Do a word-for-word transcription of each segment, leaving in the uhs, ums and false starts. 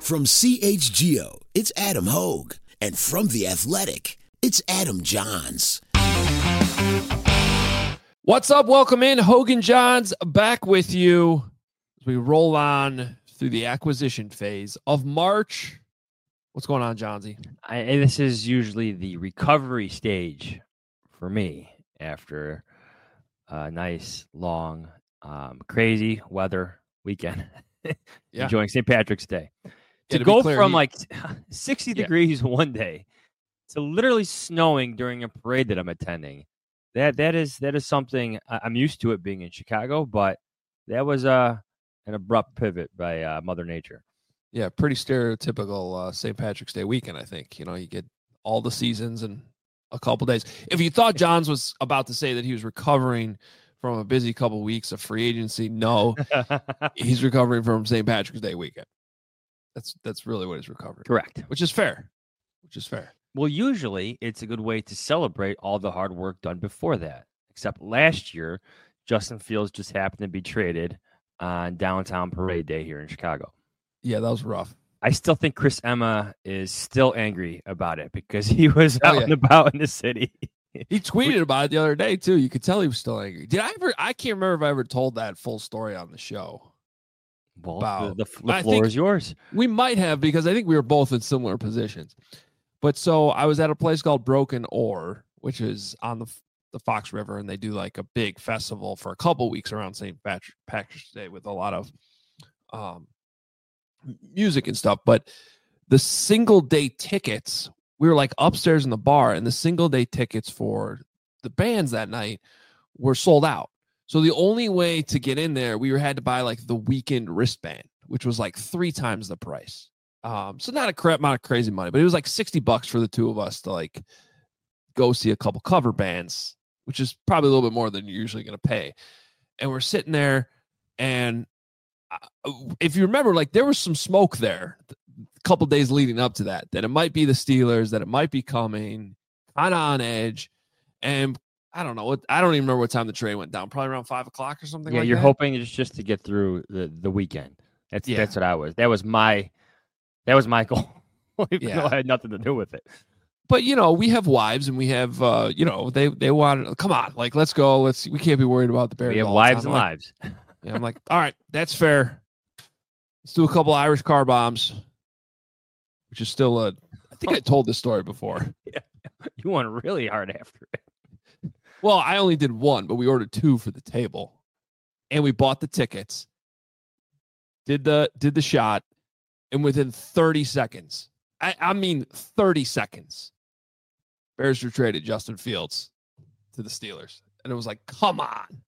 From C H G O, it's Adam Hogue. And from The Athletic, it's Adam Johns. What's up? Welcome in. Hogan Johns back with you as we roll on through the acquisition phase of March. What's going on, Johnsy? I, this is usually the recovery stage for me after a nice, long, um, crazy weather weekend. Yeah. Enjoying Saint Patrick's Day. Yeah, to, to go clear, from he, like sixty yeah. degrees one day to literally snowing during a parade that I'm attending. That that is that is something I'm used to it being in Chicago, but that was uh, an abrupt pivot by uh, Mother Nature. Yeah, pretty stereotypical uh, Saint Patrick's Day weekend, I think. You know, you get all the seasons in a couple days. If you thought Johns was about to say that he was recovering from a busy couple weeks of free agency, no, he's recovering from Saint Patrick's Day weekend. That's that's really what he's recovering. Correct. Which is fair. Which is fair. Well, usually it's a good way to celebrate all the hard work done before that. Except last year, Justin Fields just happened to be traded on downtown parade day here in Chicago. Yeah, that was rough. I still think Chris Emma is still angry about it because he was Oh, out yeah. and about in the city. He tweeted about it the other day, too. You could tell he was still angry. Did I ever? I can't remember if I ever told that full story on the show. Well, Wow. the, the, the I floor think- is yours. We might have, because I think we were both in similar positions. But so I was at a place called Broken Oar, which is on the the Fox River, and they do like a big festival for a couple weeks around Saint Patrick, Patrick's Day with a lot of um, music and stuff. But the single day tickets, we were like upstairs in the bar, and the single day tickets for the bands that night were sold out. So the only way to get in there, we were had to buy like the weekend wristband, which was like three times the price. Um, so not a crap amount of crazy money, but it was like sixty bucks for the two of us to like go see a couple cover bands, which is probably a little bit more than you're usually going to pay. And we're sitting there, and if you remember, like there was some smoke there a couple days leading up to that, that it might be the Steelers, that it might be coming, kind of on edge. And I don't know what, I don't even remember what time the trade went down, probably around five o'clock or something. Yeah, like you're that. hoping just just to get through the, the weekend. That's Yeah. that's what I was. That was my that was my goal. Even Yeah. though I had nothing to do with it. But you know, we have wives, and we have, uh, you know, they they want. Come on, like let's go. Let's. We can't be worried about the Bears. We have all the wives time. and Like, lives. yeah, I'm like, all right, that's fair. Let's do a couple Irish car bombs, which is still a. I think I told this story before. You went really hard after it. Well, I only did one, but we ordered two for the table, and we bought the tickets. Did the did the shot, and within thirty seconds, I, I mean thirty seconds, Bears were traded Justin Fields to the Steelers, and it was like, come on.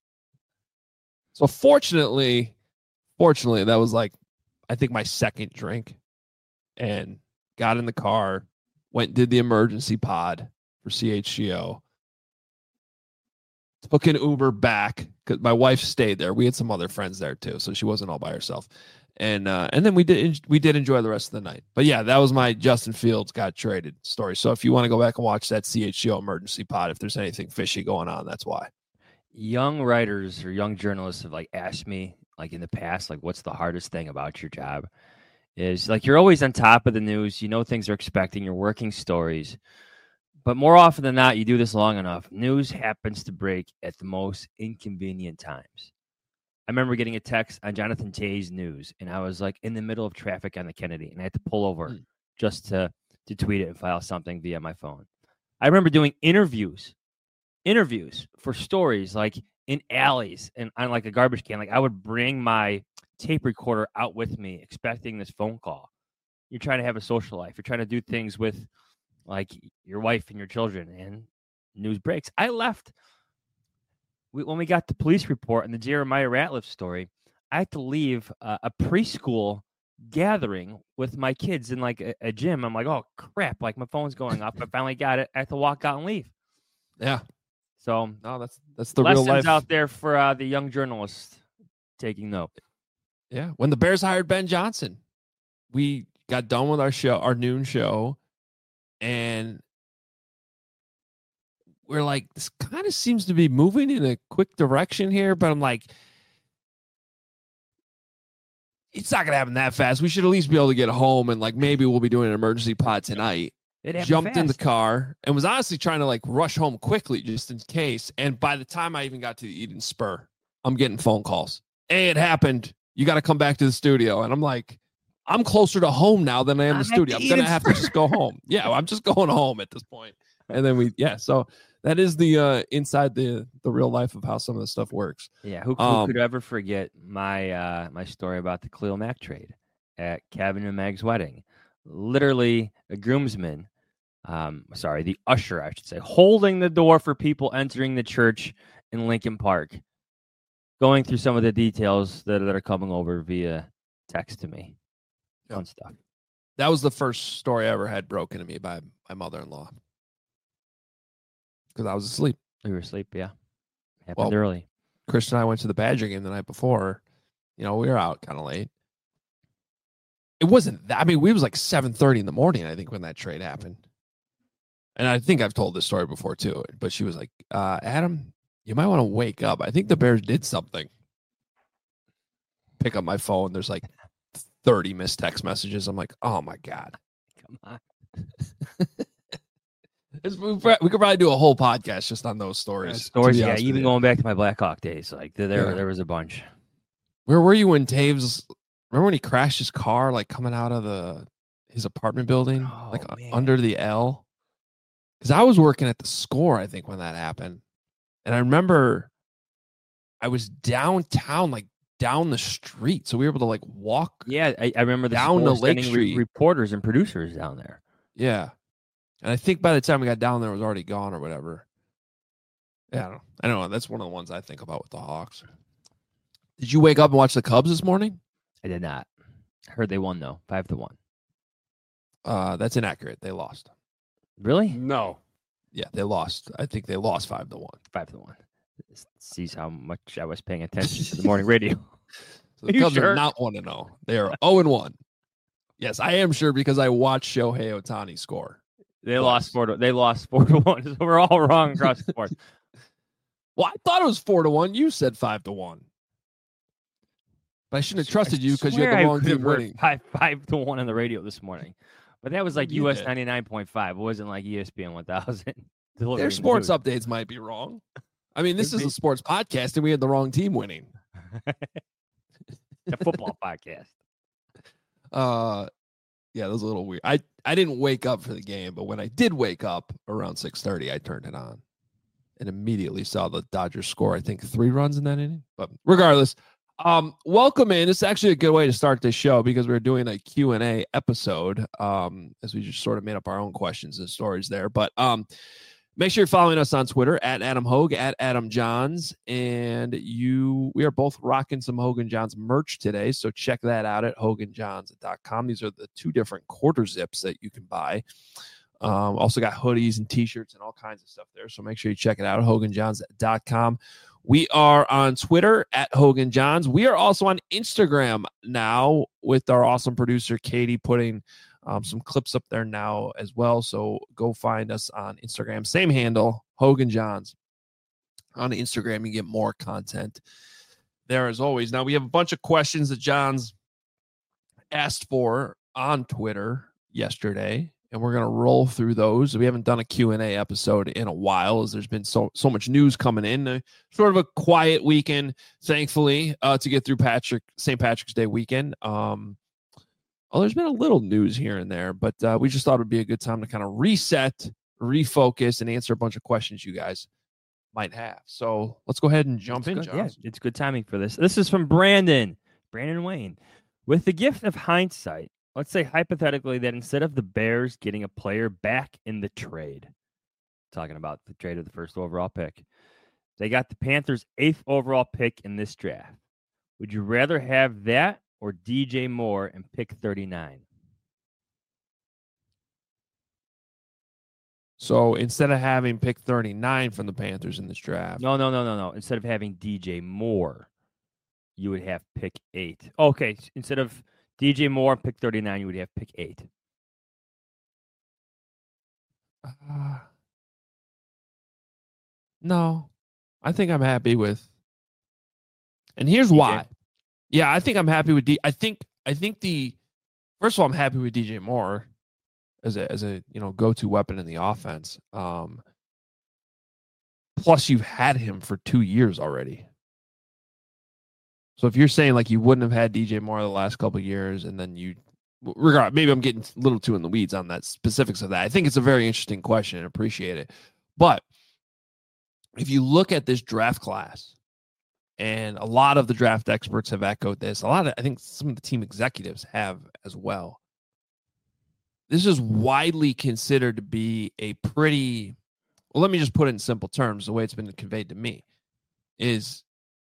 So fortunately, fortunately, that was like, I think my second drink, and got in the car, went and did the emergency pod for C H G O. Took an Uber back because my wife stayed there. We had some other friends there too, so she wasn't all by herself. And uh, and then we did we did enjoy the rest of the night. But yeah, that was my Justin Fields got traded story. So if you want to go back and watch that C H G O emergency pod, if there's anything fishy going on, that's why. Young writers or young journalists have like asked me like in the past, like what's the hardest thing about your job? Is like you're always on top of the news. You know things are expecting. You're working stories. But more often than not, you do this long enough, news happens to break at the most inconvenient times. I remember getting a text on Jonathan Tay's news, and I was like in the middle of traffic on the Kennedy, and I had to pull over mm. just to, to tweet it and file something via my phone. I remember doing interviews, interviews for stories like in alleys and on like a garbage can. Like I would bring my tape recorder out with me, expecting this phone call. You're trying to have a social life. You're trying to do things with like your wife and your children, and news breaks. I left we, when we got the police report and the Jeremiah Ratliff story. I had to leave uh, a preschool gathering with my kids in like a, a gym. I'm like, oh crap! Like my phone's going off. I finally got it. I have to walk out and leave. Yeah. So no, that's that's the lessons real life out there for uh, the young journalists taking note. Yeah. When the Bears hired Ben Johnson, we got done with our show, our noon show. And we're like, this kind of seems to be moving in a quick direction here. But I'm like, it's not gonna happen that fast. We should at least be able to get home and like maybe we'll be doing an emergency pod tonight. It happened Jumped in the fast. car and was honestly trying to like rush home quickly just in case. And by the time I even got to the Eden Spur, I'm getting phone calls. Hey, it happened. You got to come back to the studio. And I'm like, I'm closer to home now than I am I'm the at studio. the I'm gonna Eden have to just go home. Yeah, I'm just going home at this point. And then we, yeah. So that is the uh, inside the the real life of how some of this stuff works. Yeah, who, who Um, could ever forget my uh, my story about the Khalil Mack trade at Kevin and Meg's wedding? Literally, a groomsman, um, sorry, the usher, I should say, holding the door for people entering the church in Lincoln Park, going through some of the details that, that are coming over via text to me. Yeah. Fun stuff. That was the first story I ever had broken to me by my mother-in-law because I was asleep. We were asleep, yeah. Happened Well, early. Chris and I went to the Badger game the night before. You know, we were out kind of late. It wasn't that. I mean, we was like seven thirty in the morning, I think, when that trade happened. And I think I've told this story before, too. But she was like, uh, Adam, you might want to wake up. I think the Bears did something. Pick up my phone. There's like thirty missed text messages. I'm like, oh, my God. Come on. It's, we, we could probably do a whole podcast just on those stories. to Stories, be yeah, honest with even you. going back to my Blackhawk days, like there, there, Yeah. there was a bunch. Where were you when Taves? Remember when he crashed his car, like coming out of the his apartment building, Oh, like uh, man. under the L? Because I was working at the Score, I think, when that happened, and I remember I was downtown, like down the street, so we were able to like walk. Yeah, I, I remember the Down Score to Lake sending Street. reporters and producers down there. Yeah, and I think by the time we got down there, it was already gone or whatever. Yeah, I don't know. I don't know. That's one of the ones I think about with the Hawks. Did you wake up and watch the Cubs this morning? I did not. I heard they won though, five to one. Uh, that's inaccurate. They lost. Really? No. Yeah, they lost. I think they lost five to one. Five to one. This sees how much I was paying attention to the morning radio. So the Are you Cubs sure? are not one to zero. They are zero and one. Yes, I am sure because I watched Shohei Ohtani score. They Twice. lost four to they lost four to one. So we're all wrong across the board. Well, I thought it was four to one. You said five to one. But I shouldn't have trusted you because you had Swear the I wrong could have team heard winning. Five five to one on the radio this morning. But that was like You U S did. ninety nine point five. It wasn't like E S P N one thousand. Their sports updates might be wrong. I mean, this Could is be. a sports podcast, and we had the wrong team winning. A football podcast. Uh, yeah, that was a little weird. I, I didn't wake up for the game, but when I did wake up around six thirty, I turned it on and immediately saw the Dodgers score, I think, three runs in that inning. But regardless, um, welcome in. It's actually a good way to start this show because we're doing a Q and A episode um, as we just sort of made up our own questions and stories there. But um, make sure you're following us on Twitter at Adam Hogue, at Adam Johns. And you, we are both rocking some Hogan Johns merch today. So check that out at hogan johns dot com. These are the two different quarter zips that you can buy. Um, also got hoodies and t-shirts and all kinds of stuff there. So make sure you check it out at hogan johns dot com. We are on Twitter at Hogan Johns. We are also on Instagram now with our awesome producer, Katie, putting um, some clips up there now as well. So go find us on Instagram. Same handle, Hogan Johns. On Instagram, you get more content there as always. Now, we have a bunch of questions that Johns asked for on Twitter yesterday, and we're going to roll through those. We haven't done a Q and A episode in a while as there's been so so much news coming in. Uh, sort of a quiet weekend, thankfully, uh, to get through Patrick Saint Patrick's Day weekend. Um, oh, there's been a little news here and there, but uh, we just thought it would be a good time to kind of reset, refocus, and answer a bunch of questions you guys might have. So let's go ahead and jump It's in, good. Yeah, Johns. it's good timing for this. This is from Brandon. Brandon Wayne. With the gift of hindsight, let's say hypothetically that instead of the Bears getting a player back in the trade, talking about the trade of the first overall pick, they got the Panthers' eighth overall pick in this draft. Would you rather have that or D J Moore and pick thirty-nine? So instead of having pick thirty-nine from the Panthers in this draft, No, no, no, no, no. Instead of having D J Moore, you would have pick eight. Okay, instead of D J Moore and pick thirty-nine, you would have pick eight. uh, no, I think I'm happy with. And here's D J? why. Yeah, I think I'm happy with D. I think I think the first of all, I'm happy with D J Moore as a as a you know go-to weapon in the offense. Um, plus, you've had him for two years already. So if you're saying like you wouldn't have had D J Moore the last couple of years, and then you, regard maybe I'm getting a little too in the weeds on that specifics of that. I think it's a very interesting question and appreciate it. But if you look at this draft class, and a lot of the draft experts have echoed this, a lot of I think some of the team executives have as well. This is widely considered to be a pretty, well, let me just put it in simple terms. The way it's been conveyed to me is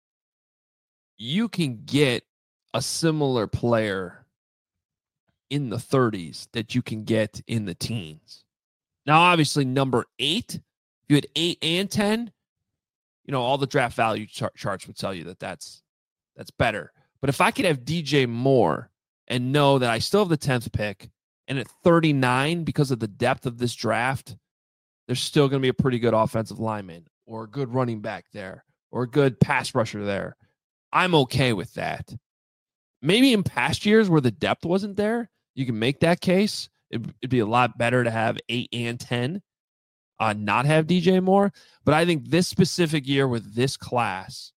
you can get a similar player in the thirties that you can get in the teens. Now, obviously, number eight, if you had eight and ten, you know, all the draft value chart charts would tell you that that's, that's better. But if I could have D J Moore and know that I still have the tenth pick, and at thirty-nine, because of the depth of this draft, there's still going to be a pretty good offensive lineman or a good running back there or a good pass rusher there, I'm okay with that. Maybe in past years where the depth wasn't there, you can make that case. It'd, it'd be a lot better to have eight and ten, uh, not have D J Moore. But I think this specific year with this class,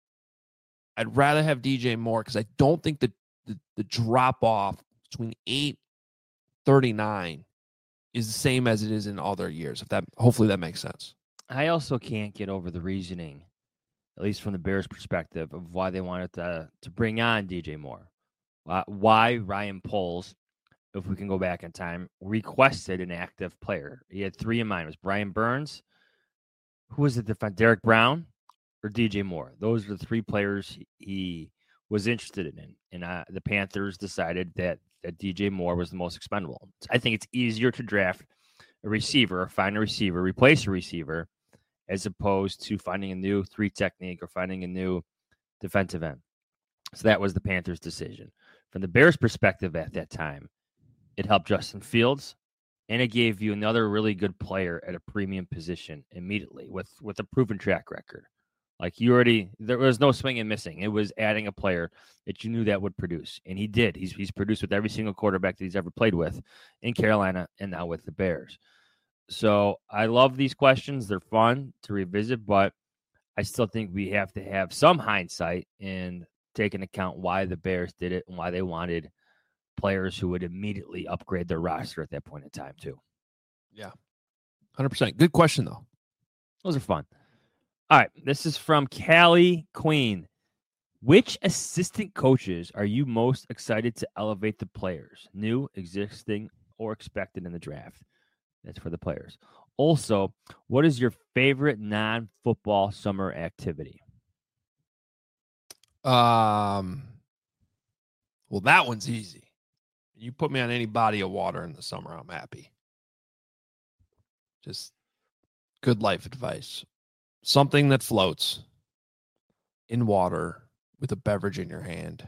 I'd rather have D J Moore because I don't think the, the, the drop-off between eight thirty-nine is the same as it is in other years. If that, hopefully that makes sense. I also can't get over the reasoning, at least from the Bears' perspective, of why they wanted to to bring on D J Moore. Uh, why Ryan Poles, if we can go back in time, requested an active player. He had three in mind. It was Brian Burns, who was the defense, Derek Brown, or D J Moore. Those are the three players he was interested in. And uh, the Panthers decided that that D J Moore was the most expendable. I think it's easier to draft a receiver, find a receiver, replace a receiver, as opposed to finding a new three technique or finding a new defensive end. So that was the Panthers' decision. From the Bears' perspective at that time, it helped Justin Fields, and it gave you another really good player at a premium position immediately with, with a proven track record. Like you already, there was no swing and missing. It was adding a player that you knew that would produce. And he did. He's he's produced with every single quarterback that he's ever played with in Carolina and now with the Bears. So I love these questions. They're fun to revisit, but I still think we have to have some hindsight and take into account why the Bears did it and why they wanted players who would immediately upgrade their roster at that point in time too. Yeah, one hundred percent. Good question, though. Those are fun. All right, this is from Callie Queen. Which assistant coaches are you most excited to elevate the players, new, existing, or expected in the draft? That's for the players. Also, what is your favorite non-football summer activity? Um, well, that one's easy. You put me on any body of water in the summer, I'm happy. Just good life advice. Something that floats in water with a beverage in your hand.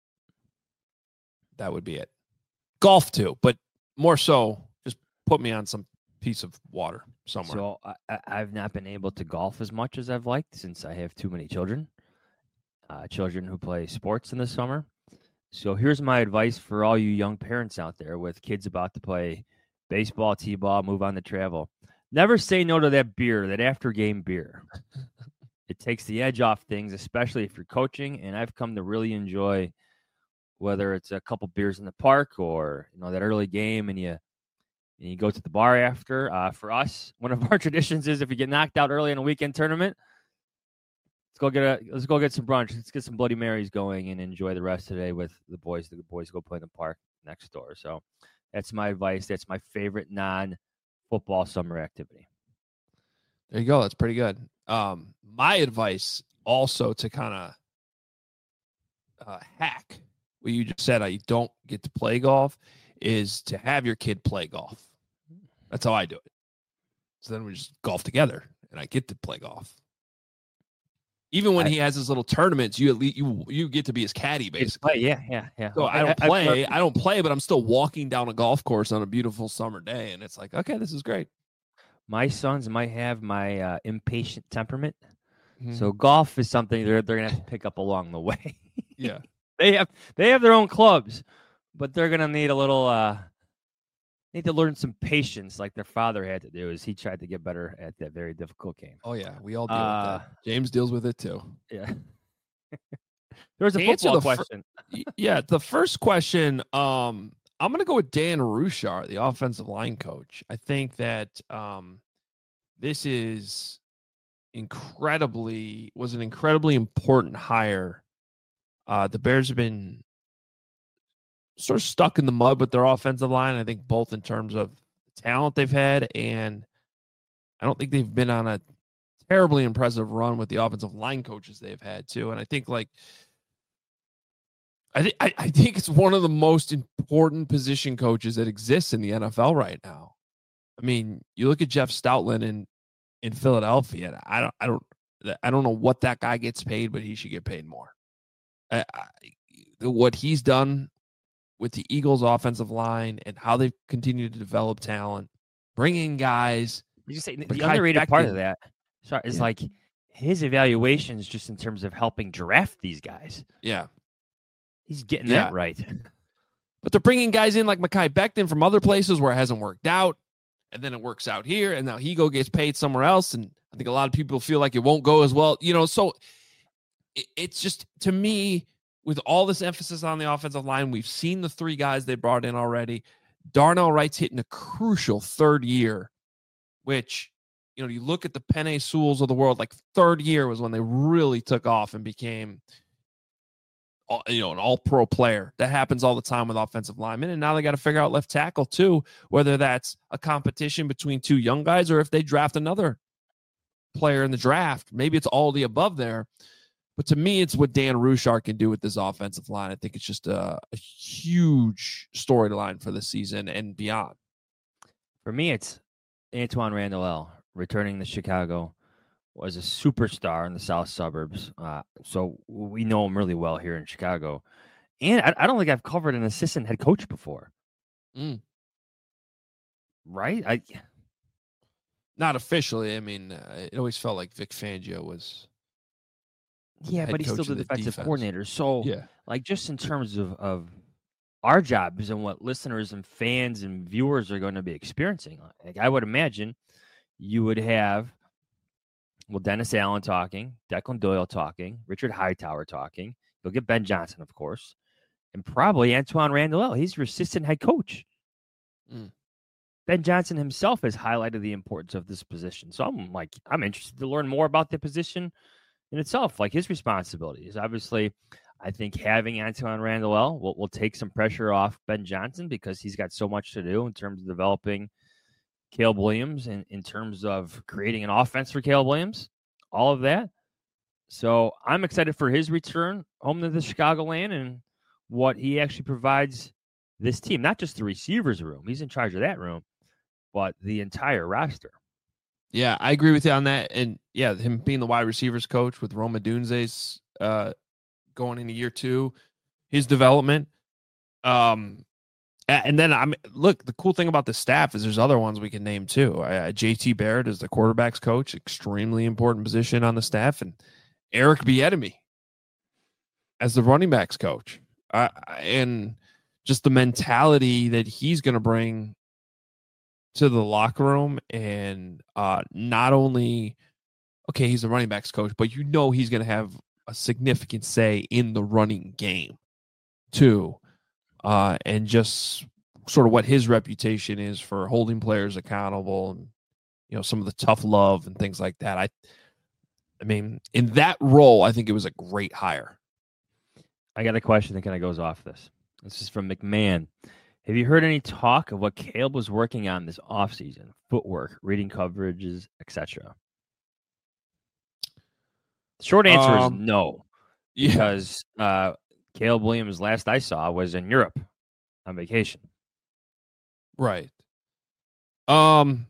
That would be it. Golf too, but more so, just put me on some piece of water somewhere. So I, I've not been able to golf as much as I've liked since I have too many children, uh, children who play sports in the summer. So here's my advice for all you young parents out there with kids about to play baseball, t-ball, move on to travel. Never say no to that beer, that after-game beer. It takes the edge off things, especially if you're coaching. And I've come to really enjoy whether it's a couple beers in the park or you know that early game, and you and you go to the bar after. Uh, for us, one of our traditions is if you get knocked out early in a weekend tournament, let's go get a let's go get some brunch. Let's get some Bloody Marys going and enjoy the rest of the day with the boys. The boys go play in the park next door. So that's my advice. That's my favorite non. Football summer activity. There you go. That's pretty good. Um, my advice also to kind of uh, hack what you just said, I don't get to play golf, is to have your kid play golf. That's how I do it. So then we just golf together, and I get to play golf. Even when I, he has his little tournaments, you at least you you get to be his caddy, basically. Yeah, yeah, yeah. So I, I don't play. I, I don't play, but I'm still walking down a golf course on a beautiful summer day, and it's like, okay, this is great. My sons might have my uh, impatient temperament, mm-hmm. so golf is something they're they're gonna have to pick up along the way. Yeah, they have they have their own clubs, but they're gonna need a little uh need to learn some patience, like their father had to do, as he tried to get better at that very difficult game. Oh yeah, we all deal Uh, with that. James deals with it too. Yeah. There was a To answer football the fir- question. Y- yeah, the first question, um, I'm gonna go with Dan Rushar, the offensive line coach. I think that um, this is incredibly was an incredibly important hire. Uh, the Bears have been sort of stuck in the mud with their offensive line. I think both in terms of the talent they've had, and I don't think they've been on a terribly impressive run with the offensive line coaches they've had too. And I think like I think I, I think it's one of the most important position coaches that exists in the N F L right now. I mean, you look at Jeff Stoutland in in Philadelphia. And I don't I don't I don't know what that guy gets paid, but he should get paid more. I, I, what he's done with the Eagles' offensive line and how they've continued to develop talent, bring in guys. You say But the Kai underrated part of Becton- that sorry, is Yeah. like his evaluations just in terms of helping draft these guys. Yeah. He's getting Yeah. that right. But they're bringing guys in like Mekhi Becton from other places where it hasn't worked out. And then it works out here. And now Higo gets paid somewhere else. And I think a lot of people feel like it won't go as well. You know, so it, it's just, to me, with all this emphasis on the offensive line, we've seen the three guys they brought in already. Darnell Wright's hitting a crucial third year, which, you know, you look at the Penei Sewells of the world, like third year was when they really took off and became, you know, an all-pro player. That happens all the time with offensive linemen. And now they got to figure out left tackle too, whether that's a competition between two young guys or if they draft another player in the draft. Maybe it's all the above there. But to me, it's what Dan Rushar can do with this offensive line. I think it's just a, a huge storyline for the season and beyond. For me, it's Antoine Randall returning to Chicago, was a superstar in the south suburbs. Uh, so we know him really well here in Chicago. And I, I don't think I've covered an assistant head coach before. Mm. Right? I Not officially. I mean, uh, it always felt like Vic Fangio was. Yeah, head but he's still coach the of the defensive defense. coordinator. So, Yeah. like, just in terms of, of our jobs and what listeners and fans and viewers are going to be experiencing, like, I would imagine you would have, well, Dennis Allen talking, Declan Doyle talking, Richard Hightower talking. You'll get Ben Johnson, of course, and probably Antoine Randall. He's your assistant head coach. Mm. Ben Johnson himself has highlighted the importance of this position. So I'm like, I'm interested to learn more about the position in itself, like his responsibilities. Obviously, I think having Antoine Randall will, will take some pressure off Ben Johnson because he's got so much to do in terms of developing Caleb Williams and in terms of creating an offense for Caleb Williams, all of that. So I'm excited for his return home to the Chicagoland and what he actually provides this team, not just the receivers room. He's in charge of that room, but the entire roster. Yeah, I agree with you on that. And yeah, him being the wide receivers coach with Roma Dunze's uh, going into year two, his development. Um, a- and then I'm look, the cool thing about the staff is there's other ones we can name too. Uh, J T Barrett is the quarterback's coach, extremely important position on the staff, and Eric Bieniemy as the running backs coach. Uh, and just the mentality that he's going to bring to the locker room, and uh, not only, okay, he's the running backs coach, but you know he's going to have a significant say in the running game too, uh, and just sort of what his reputation is for holding players accountable, and you know some of the tough love and things like that. I, I mean, in that role, I think it was a great hire. I got a question that kind of goes off this. This is from McMahon. Have you heard any talk of what Caleb was working on this offseason? Footwork, reading coverages, et cetera. Short answer Um, is no, Yeah, because uh, Caleb Williams, last I saw, was in Europe on vacation. right. Um.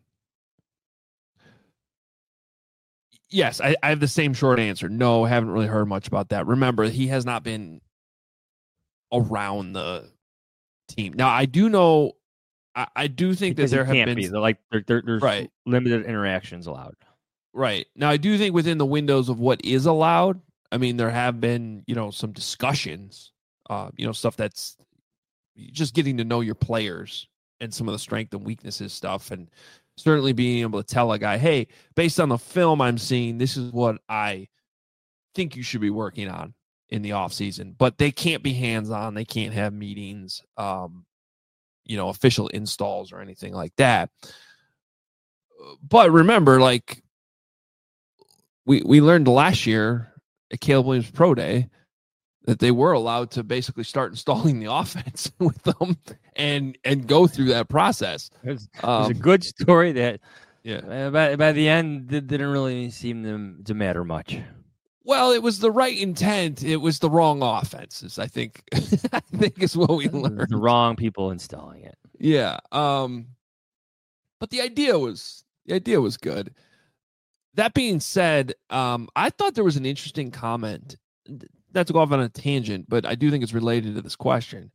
Yes, I, I have the same short answer. No, haven't really heard much about that. Remember, he has not been around the team. Now, I do know, I, I do think Because that there he have can't been be. They're like there, there, there's Right. limited interactions allowed. right now. I do think within the windows of what is allowed. I mean, there have been you know some discussions uh, you know, stuff that's just getting to know your players and some of the strength and weaknesses stuff. And certainly being able to tell a guy, hey, based on the film I'm seeing, this is what I think you should be working on in the off season, but they can't be hands-on. They can't have meetings, um, you know, official installs or anything like that. But remember, like we, we learned last year at Caleb Williams Pro Day that they were allowed to basically start installing the offense with them and, and go through that process. There's, um, there's a good story that yeah, uh, by, by the end, it didn't really seem to, to matter much. Well, it was the right intent. It was the wrong offenses. I think. I think is what we learned. The wrong people installing it. Yeah. Um. But the idea was the idea was good. That being said, um, I thought there was an interesting comment. Not to go off on a tangent, but I do think it's related to this question.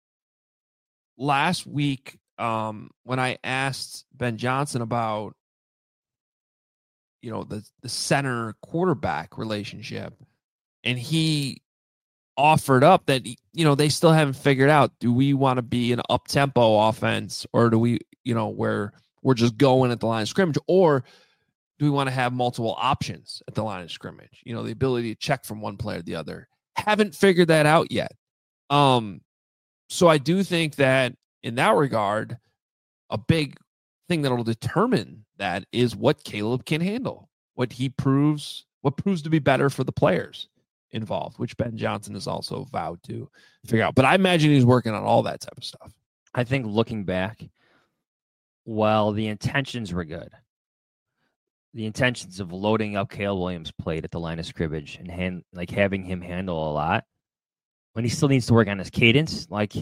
Last week, um, when I asked Ben Johnson about, you know, the, the center quarterback relationship, and he offered up that, you know, they still haven't figured out, do we want to be an up tempo offense, or do we, you know, where we're just going at the line of scrimmage, or do we want to have multiple options at the line of scrimmage? You know, the ability to check from one player to the other. Haven't figured that out yet. Um, so I do think that in that regard, a big thing that'll determine that is what Caleb can handle, what he proves, what proves to be better for the players involved, which Ben Johnson has also vowed to figure out. But I imagine he's working on all that type of stuff. I think looking back, well, the intentions were good. The intentions of loading up Caleb Williams' plate at the line of scrimmage and hand, like having him handle a lot, when he still needs to work on his cadence, like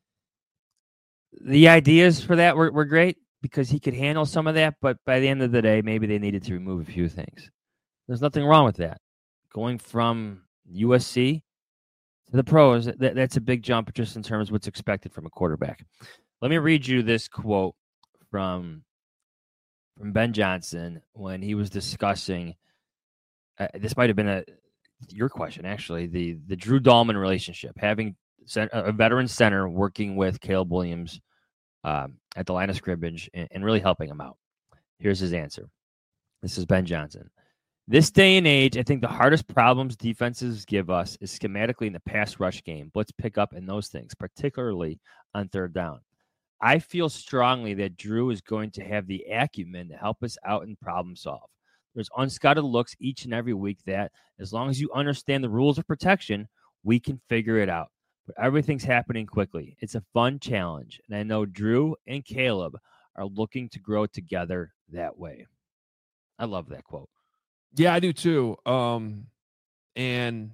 the ideas for that were, were great because he could handle some of that, but by the end of the day, maybe they needed to remove a few things. There's nothing wrong with that. Going from U S C to the pros, that, that's a big jump just in terms of what's expected from a quarterback. Let me read you this quote from from Ben Johnson when he was discussing, uh, this might have been a your question, actually, the, the Drew Dahlman relationship, having a veteran center working with Caleb Williams um, at the line of scrimmage and, and really helping him out. Here's his answer. This is Ben Johnson. This day and age, I think the hardest problems defenses give us is schematically in the pass rush game, blitz pickup, and those things, particularly on third down. I feel strongly that Drew is going to have the acumen to help us out and problem solve. There's unscouted looks each and every week that, as long as you understand the rules of protection, we can figure it out. But everything's happening quickly. It's a fun challenge, and I know Drew and Caleb are looking to grow together that way. I love that quote. Yeah, I do too. Um, and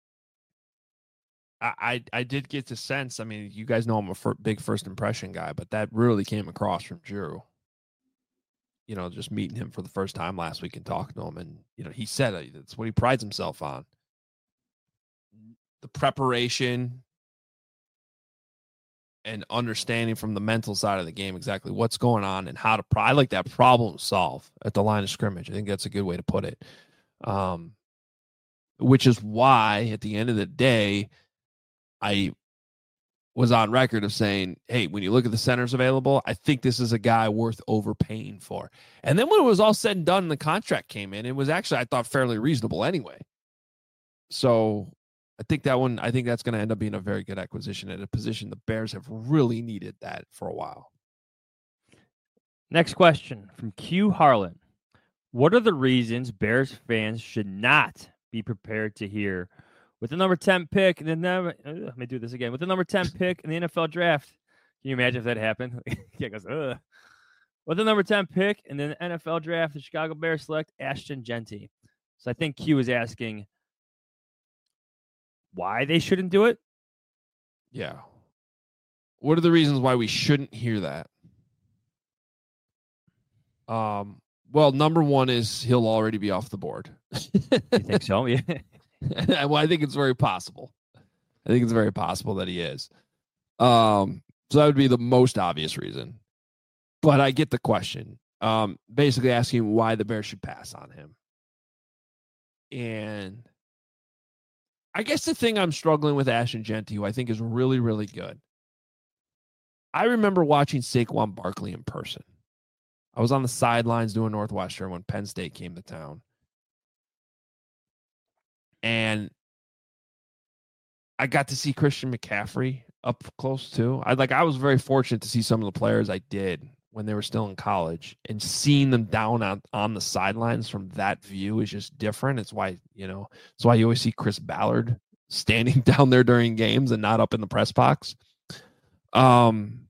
I, I, I did get the sense. I mean, you guys know I'm a fir- big first impression guy, but that really came across from Drew. You know, just meeting him for the first time last week and talking to him, and you know, he said uh, that's what he prides himself on: the preparation and understanding from the mental side of the game exactly what's going on and how to. Pro- I like that problem solve at the line of scrimmage. I think that's a good way to put it. Um, which is why, at the end of the day, I was on record of saying, hey, when you look at the centers available, I think this is a guy worth overpaying for. And then when it was all said and done and the contract came in, it was actually, I thought, fairly reasonable anyway. So I think that one, I think that's going to end up being a very good acquisition at a position the Bears have really needed that for a while. Next question from Q Harlan. What are the reasons Bears fans should not be prepared to hear with the number ten pick and then never, uh, let me do this again with the number ten pick in the N F L draft? Can you imagine if that happened? Yeah, goes, Ugh. With the number ten pick in the N F L draft, the Chicago Bears select Ashton Jeanty. So I think Q is asking why they shouldn't do it. Yeah. What are the reasons why we shouldn't hear that? Um. Well, number one is he'll already be off the board. You think so? Yeah. Well, I think it's very possible. I think it's very possible that he is. Um, so that would be the most obvious reason. But I get the question. Um, basically asking why the Bears should pass on him. And I guess the thing I'm struggling with Ashton Jeanty, who I think is really, really good. I remember watching Saquon Barkley in person. I was on the sidelines doing Northwestern when Penn State came to town. And I got to see Christian McCaffrey up close too. I like I was very fortunate to see some of the players I did when they were still in college, and seeing them down on, on the sidelines from that view is just different. It's why, you know, it's why you always see Chris Ballard standing down there during games and not up in the press box. Um,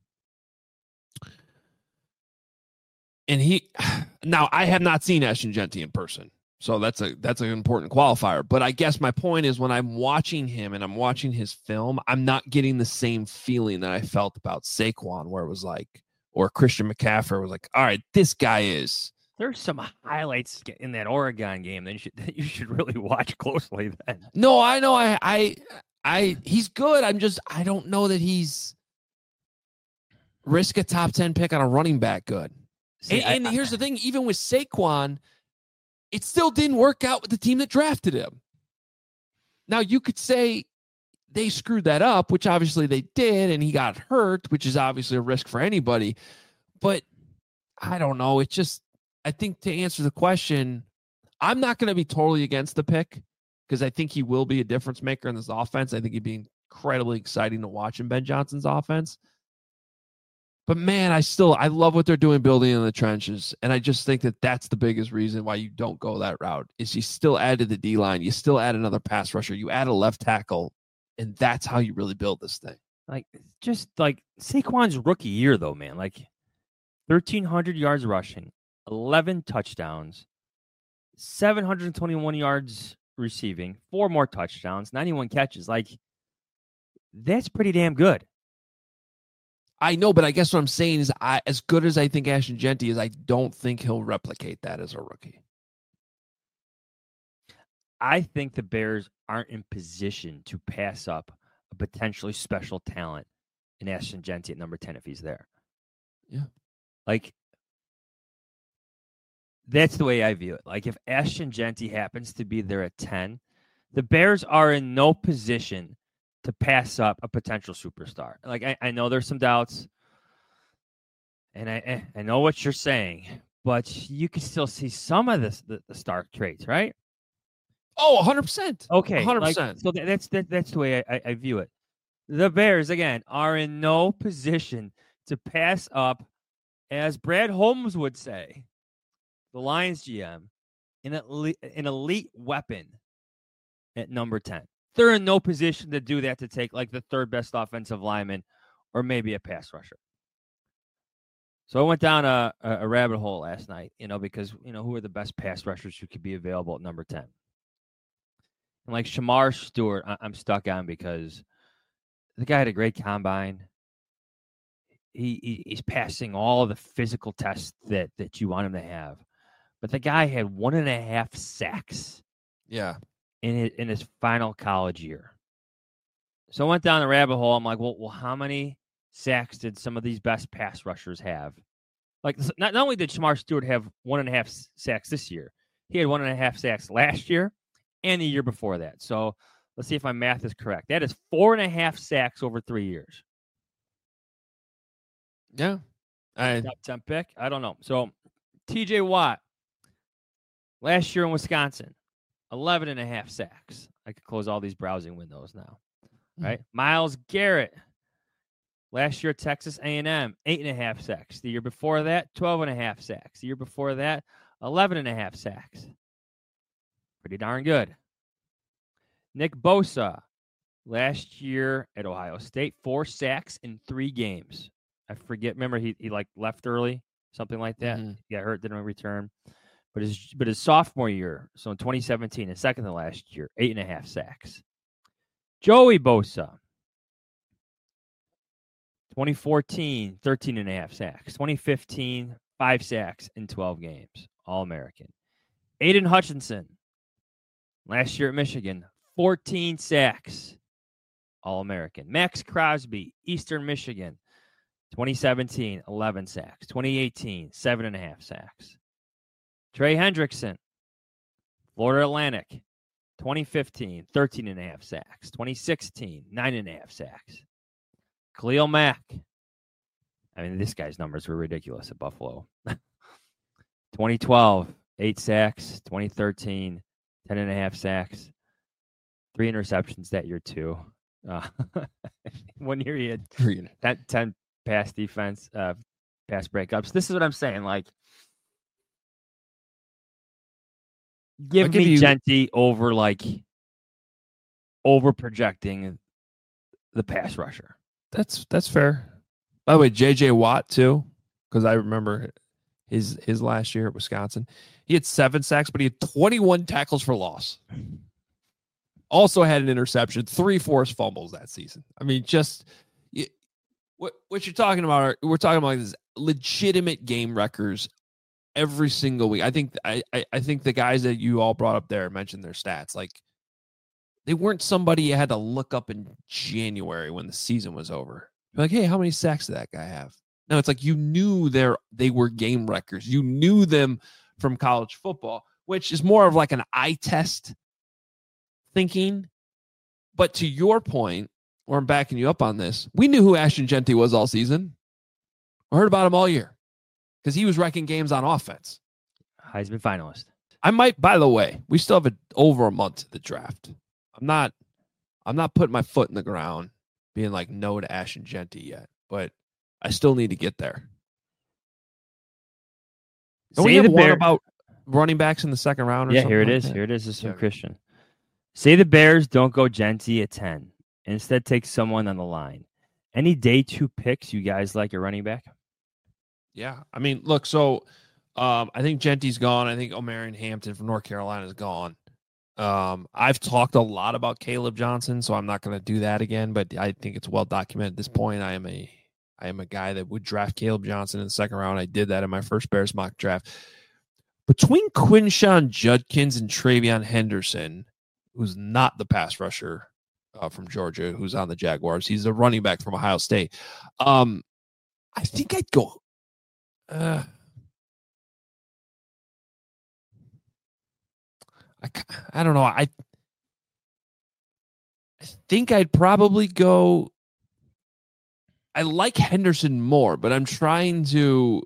and he, now I have not seen Ashton Jeanty in person, so that's a, that's an important qualifier. But I guess my point is, when I'm watching him and I'm watching his film, I'm not getting the same feeling that I felt about Saquon, where it was like, or Christian McCaffrey was like, all right, this guy is. There's some highlights in that Oregon game that you should, that you should really watch closely then. No, I know. I, I, I, he's good. I'm just, I don't know that he's risk a top ten pick on a running back good. See, and, I, and I, here's the thing, even with Saquon, it still didn't work out with the team that drafted him. Now, you could say they screwed that up, which obviously they did, and he got hurt, which is obviously a risk for anybody. But I don't know. It's just, I think to answer the question, I'm not going to be totally against the pick, because I think he will be a difference maker in this offense. I think he'd be incredibly exciting to watch in Ben Johnson's offense. But man, I still, I love what they're doing building in the trenches. And I just think that that's the biggest reason why you don't go that route, is you still add to the D-line. You still add another pass rusher. You add a left tackle. And that's how you really build this thing. Like, just like Saquon's rookie year, though, man. Like, thirteen hundred yards rushing, eleven touchdowns, seven hundred twenty-one yards receiving, four more touchdowns, ninety-one catches. Like, that's pretty damn good. I know, but I guess what I'm saying is, I, as good as I think Ashton Jeanty is, I don't think he'll replicate that as a rookie. I think the Bears aren't in position to pass up a potentially special talent in Ashton Jeanty at number ten if he's there. Yeah. Like, that's the way I view it. Like, if Ashton Jeanty happens to be there at ten, the Bears are in no position to pass up a potential superstar. Like, I, I know there's some doubts, and I I know what you're saying, but you can still see some of this, the, the star traits, right? Oh, one hundred percent. Okay. one hundred percent. Like, so that, that's that, that's the way I, I view it. The Bears, again, are in no position to pass up, as Brad Holmes would say, the Lions G M, an elite, an elite weapon at number ten. They're in no position to do that, to take like the third best offensive lineman or maybe a pass rusher. So I went down a, a rabbit hole last night, you know, because, you know, who are the best pass rushers who could be available at number ten? And like Shamar Stewart, I- I'm stuck on, because the guy had a great combine. He, he he's passing all of the physical tests that, that you want him to have. But the guy had one and a half sacks. Yeah. In his, in his final college year. So I went down the rabbit hole. I'm like, well, well, how many sacks did some of these best pass rushers have? Like, not, not only did Shamar Stewart have one and a half sacks this year, he had one and a half sacks last year and the year before that. So let's see if my math is correct. That is four and a half sacks over three years. Yeah. I, Top ten pick? I don't know. So T J Watt, last year in Wisconsin, eleven and a half sacks. I could close all these browsing windows now, right? Mm-hmm. Myles Garrett, last year at Texas A and M, eight and a half sacks. The year before that, twelve and a half sacks. The year before that, eleven and a half sacks. Pretty darn good. Nick Bosa, last year at Ohio State, four sacks in three games. I forget. Remember, he he like left early, something like that. Mm-hmm. He got hurt, didn't return. But his but his sophomore year, so in twenty seventeen, his second to last year, eight and a half sacks. Joey Bosa, twenty fourteen, thirteen and a half sacks. twenty fifteen, five sacks in twelve games. All-American. Aiden Hutchinson, last year at Michigan, fourteen sacks. All-American. Max Crosby, Eastern Michigan, twenty seventeen, eleven sacks. twenty eighteen, seven and a half sacks. Trey Hendrickson, Florida Atlantic, twenty fifteen, thirteen and a half sacks. twenty sixteen, nine and a half sacks. Khalil Mack. I mean, this guy's numbers were ridiculous at Buffalo. twenty twelve, eight sacks. twenty thirteen, ten and a half sacks. Three interceptions that year, too. Uh, one year he had ten, ten pass defense, uh, pass breakups. This is what I'm saying. Like, give me you... Genty over, like, over projecting the pass rusher. That's that's fair. By the way, J J Watt too, because I remember his his last year at Wisconsin. He had seven sacks, but he had twenty-one tackles for loss. Also had an interception, three forced fumbles that season. I mean, just you, what what you're talking about? Are, we're talking about like this legitimate game wreckers every single week. I think I, I I think the guys that you all brought up there mentioned their stats. Like, they weren't somebody you had to look up in January when the season was over. You're like, hey, how many sacks did that guy have? No, it's like you knew they they were game wreckers. You knew them from college football, which is more of like an eye test thinking. But to your point, where I'm backing you up on this, we knew who Ashton Genty was all season. I heard about him all year because he was wrecking games on offense. Heisman finalist. I might, by the way, we still have a, over a month to the draft. I'm not, I'm not putting my foot in the ground being like no to Ashton Genty yet, but I still need to get there. Don't we have one Bear- about running backs in the second round? Or yeah, something here it like is. That? Here it is. This is from yeah. Christian. Say the Bears don't go Genty at ten. Instead, take someone on the line. Any day two picks you guys like a running back? Yeah, I mean, look. So um, I think Genty's gone. I think Omarion Hampton from North Carolina is gone. Um, I've talked a lot about Caleb Johnson, so I'm not going to do that again. But I think it's well documented at this point. I am a I am a guy that would draft Caleb Johnson in the second round. I did that in my first Bears mock draft. Between Quinshawn Judkins and Travion Henderson, who's not the pass rusher uh, from Georgia, who's on the Jaguars, he's a running back from Ohio State. Um, I think I'd go. Uh, I, I don't know. I I think I'd probably go. I like Henderson more, but I'm trying to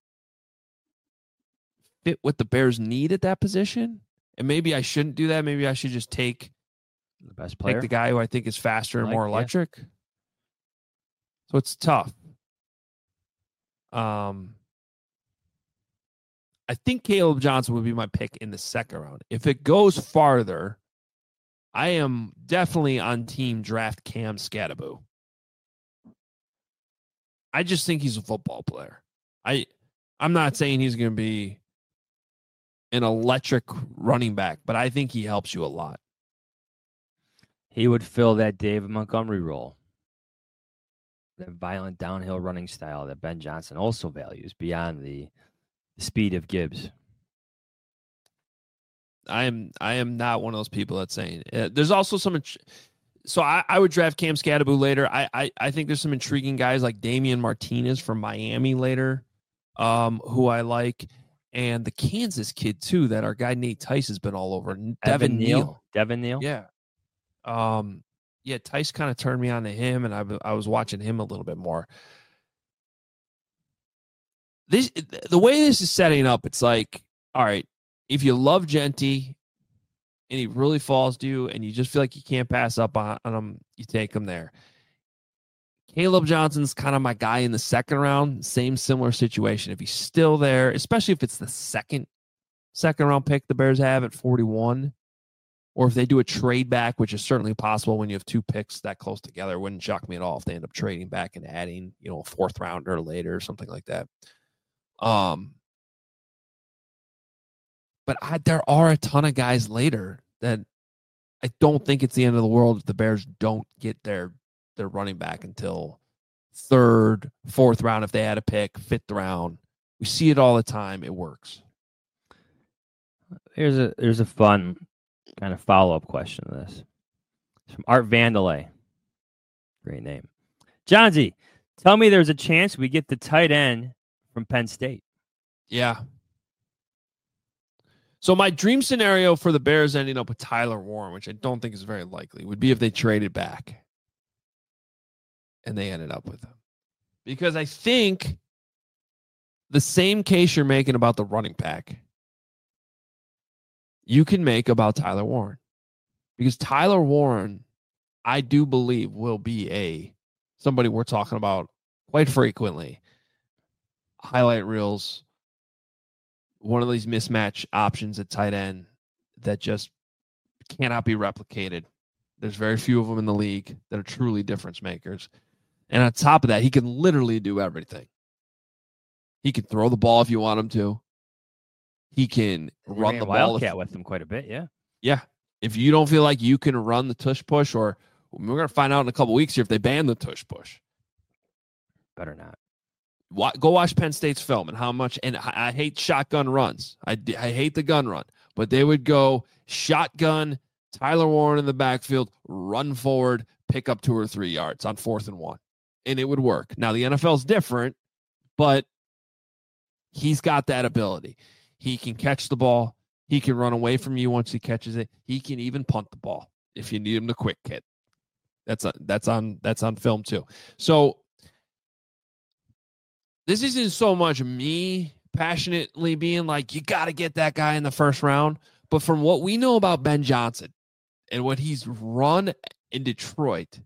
fit what the Bears need at that position. And maybe I shouldn't do that. Maybe I should just take the best player, take the guy who I think is faster and like, more electric. Yeah. So it's tough. Um, I think Caleb Johnson would be my pick in the second round. If it goes farther, I am definitely on team draft Cam Skattebo. I just think he's a football player. I, I'm not saying he's going to be an electric running back, but I think he helps you a lot. He would fill that David Montgomery role. That violent downhill running style that Ben Johnson also values beyond the speed of Gibbs. I am I am not one of those people that's saying uh, there's also some. So I, I would draft Cam Skattebo later. I, I I think there's some intriguing guys like Damian Martinez from Miami later, um, who I like, and the Kansas kid too that our guy Nate Tice has been all over. Devin, Devin Neal. Neal. Devin Neal. Yeah. Um. Yeah, Tice kind of turned me on to him, and I I was watching him a little bit more. This the way this is setting up, it's like, all right, if you love Genty and he really falls to you and you just feel like you can't pass up on, on him, you take him there. Caleb Johnson's kind of my guy in the second round, same similar situation. If he's still there, especially if it's the second second round pick the Bears have at forty-one, or if they do a trade back, which is certainly possible when you have two picks that close together. It wouldn't shock me at all if they end up trading back and adding, you know, a fourth rounder later or something like that. Um, but I, there are a ton of guys later that I don't think it's the end of the world if the Bears don't get their their running back until third, fourth round. If they had a pick, fifth round, we see it all the time. It works. Here's a here's a fun kind of follow up question to this. It's from Art Vandelay. Great name, Johnsy. Tell me, there's a chance we get the tight end from Penn State. Yeah. So my dream scenario for the Bears ending up with Tyler Warren, which I don't think is very likely, would be if they traded back and they ended up with him. Because I think the same case you're making about the running back, you can make about Tyler Warren. Because Tyler Warren, I do believe, will be a somebody we're talking about quite frequently. Highlight reels, one of these mismatch options at tight end that just cannot be replicated. There's very few of them in the league that are truly difference makers. And on top of that, he can literally do everything. He can throw the ball if you want him to. He can We run ran the Wildcat ball. If, with him quite a bit, yeah. yeah. If you don't feel like you can run the tush push, or we're going to find out in a couple weeks here if they ban the tush push. Better not. Go watch Penn State's film and how much, and I, I hate shotgun runs. I, I hate the gun run, but they would go shotgun, Tyler Warren in the backfield, run forward, pick up two or three yards on fourth and one, and it would work. Now, the N F L is different, but he's got that ability. He can catch the ball. He can run away from you once he catches it. He can even punt the ball if you need him to quick hit. That's a, that's on that's on film too. So this isn't so much me passionately being like, you got to get that guy in the first round. But from what we know about Ben Johnson and what he's run in Detroit,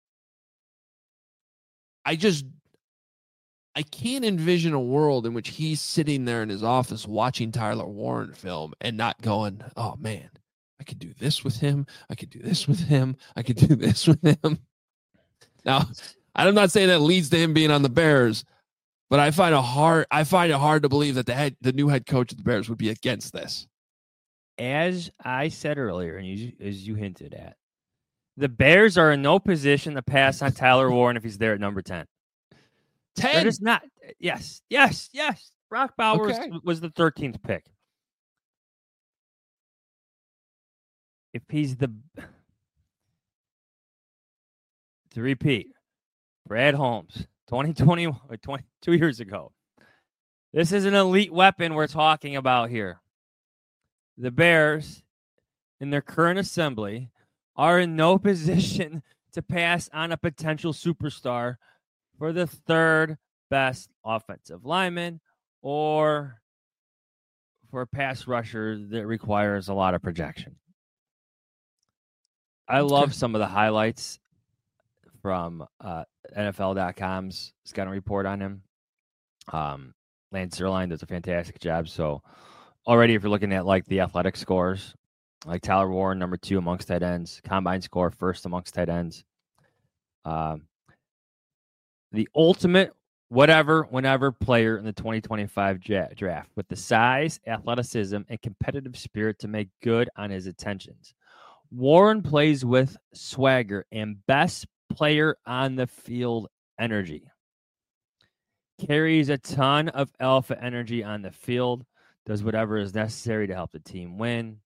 I just, I can't envision a world in which he's sitting there in his office watching Tyler Warren film and not going, oh man, I could do this with him. I could do this with him. I could do this with him. Now, I'm not saying that leads to him being on the Bears, but I find it hard. I find it hard to believe that the head, the new head coach of the Bears would be against this. As I said earlier, and you, as you hinted at, the Bears are in no position to pass on Tyler Warren if he's there at number ten. ten? They're just not. Yes, yes, yes. Brock Bowers Okay. was the thirteenth pick. If he's the to repeat, Brad Holmes, twenty twenty-one or twenty-two years ago. This is an elite weapon we're talking about here. The Bears, in their current assembly, are in no position to pass on a potential superstar for the third best offensive lineman or for a pass rusher that requires a lot of projection. I love some of the highlights from uh, N F L dot com's scouting report on him. Um, Lance Zierlein does a fantastic job. So already if you're looking at like the athletic scores, like Tyler Warren, number two amongst tight ends, combine score first amongst tight ends. Um, the ultimate whatever, whenever player in the twenty twenty-five draft with the size, athleticism, and competitive spirit to make good on his attentions. Warren plays with swagger and best player on the field energy. Carries a ton of alpha energy on the field, does whatever is necessary to help the team win.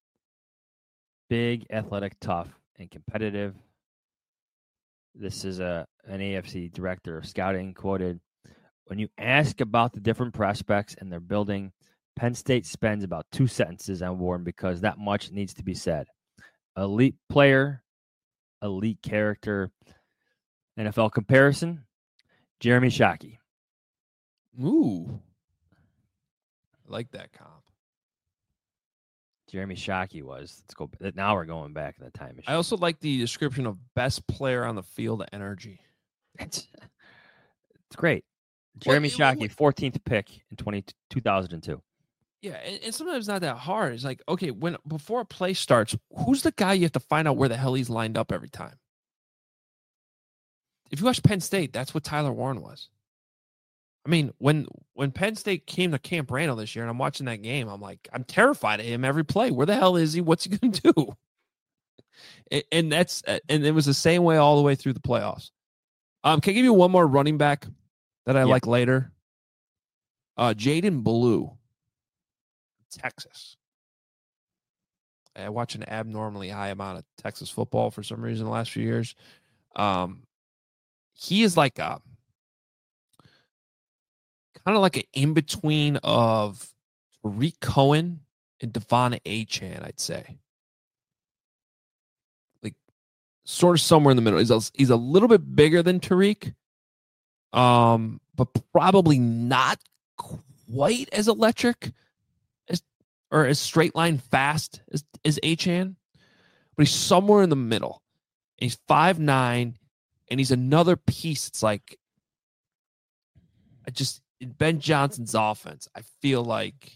Big, athletic, tough, and competitive. This is a an A F C director of scouting quoted, when you ask about the different prospects and their building, Penn State spends about two sentences on Warren because that much needs to be said. Elite player, elite character, N F L comparison, Jeremy Shockey. Ooh. I like that comp. Jeremy Shockey was. Let's go. Now we're going back in the time machine. I also like the description of best player on the field of energy. It's, it's great. Jeremy Well, Shockey, fourteenth pick in twenty, two thousand two. Yeah, and, and sometimes it's not that hard. It's like, okay, when before a play starts, who's the guy you have to find out where the hell he's lined up every time? If you watch Penn State, that's what Tyler Warren was. I mean, when when Penn State came to Camp Randall this year, and I'm watching that game, I'm like, I'm terrified of him every play. Where the hell is he? What's he going to do? And, and that's and it was the same way all the way through the playoffs. Um, can I give you one more running back that I Yeah. like later? Uh, Jaden Blue, Texas. I watch an abnormally high amount of Texas football for some reason the last few years. Um, he is like a kind of like an in-between of Tariq Cohen and Devon Achane, I'd say. Like, sort of somewhere in the middle. He's a, he's a little bit bigger than Tariq, um, but probably not quite as electric as or as straight line fast as, as Achane. But he's somewhere in the middle. And he's five nine, and he's another piece. It's like, I just, in Ben Johnson's offense, I feel like,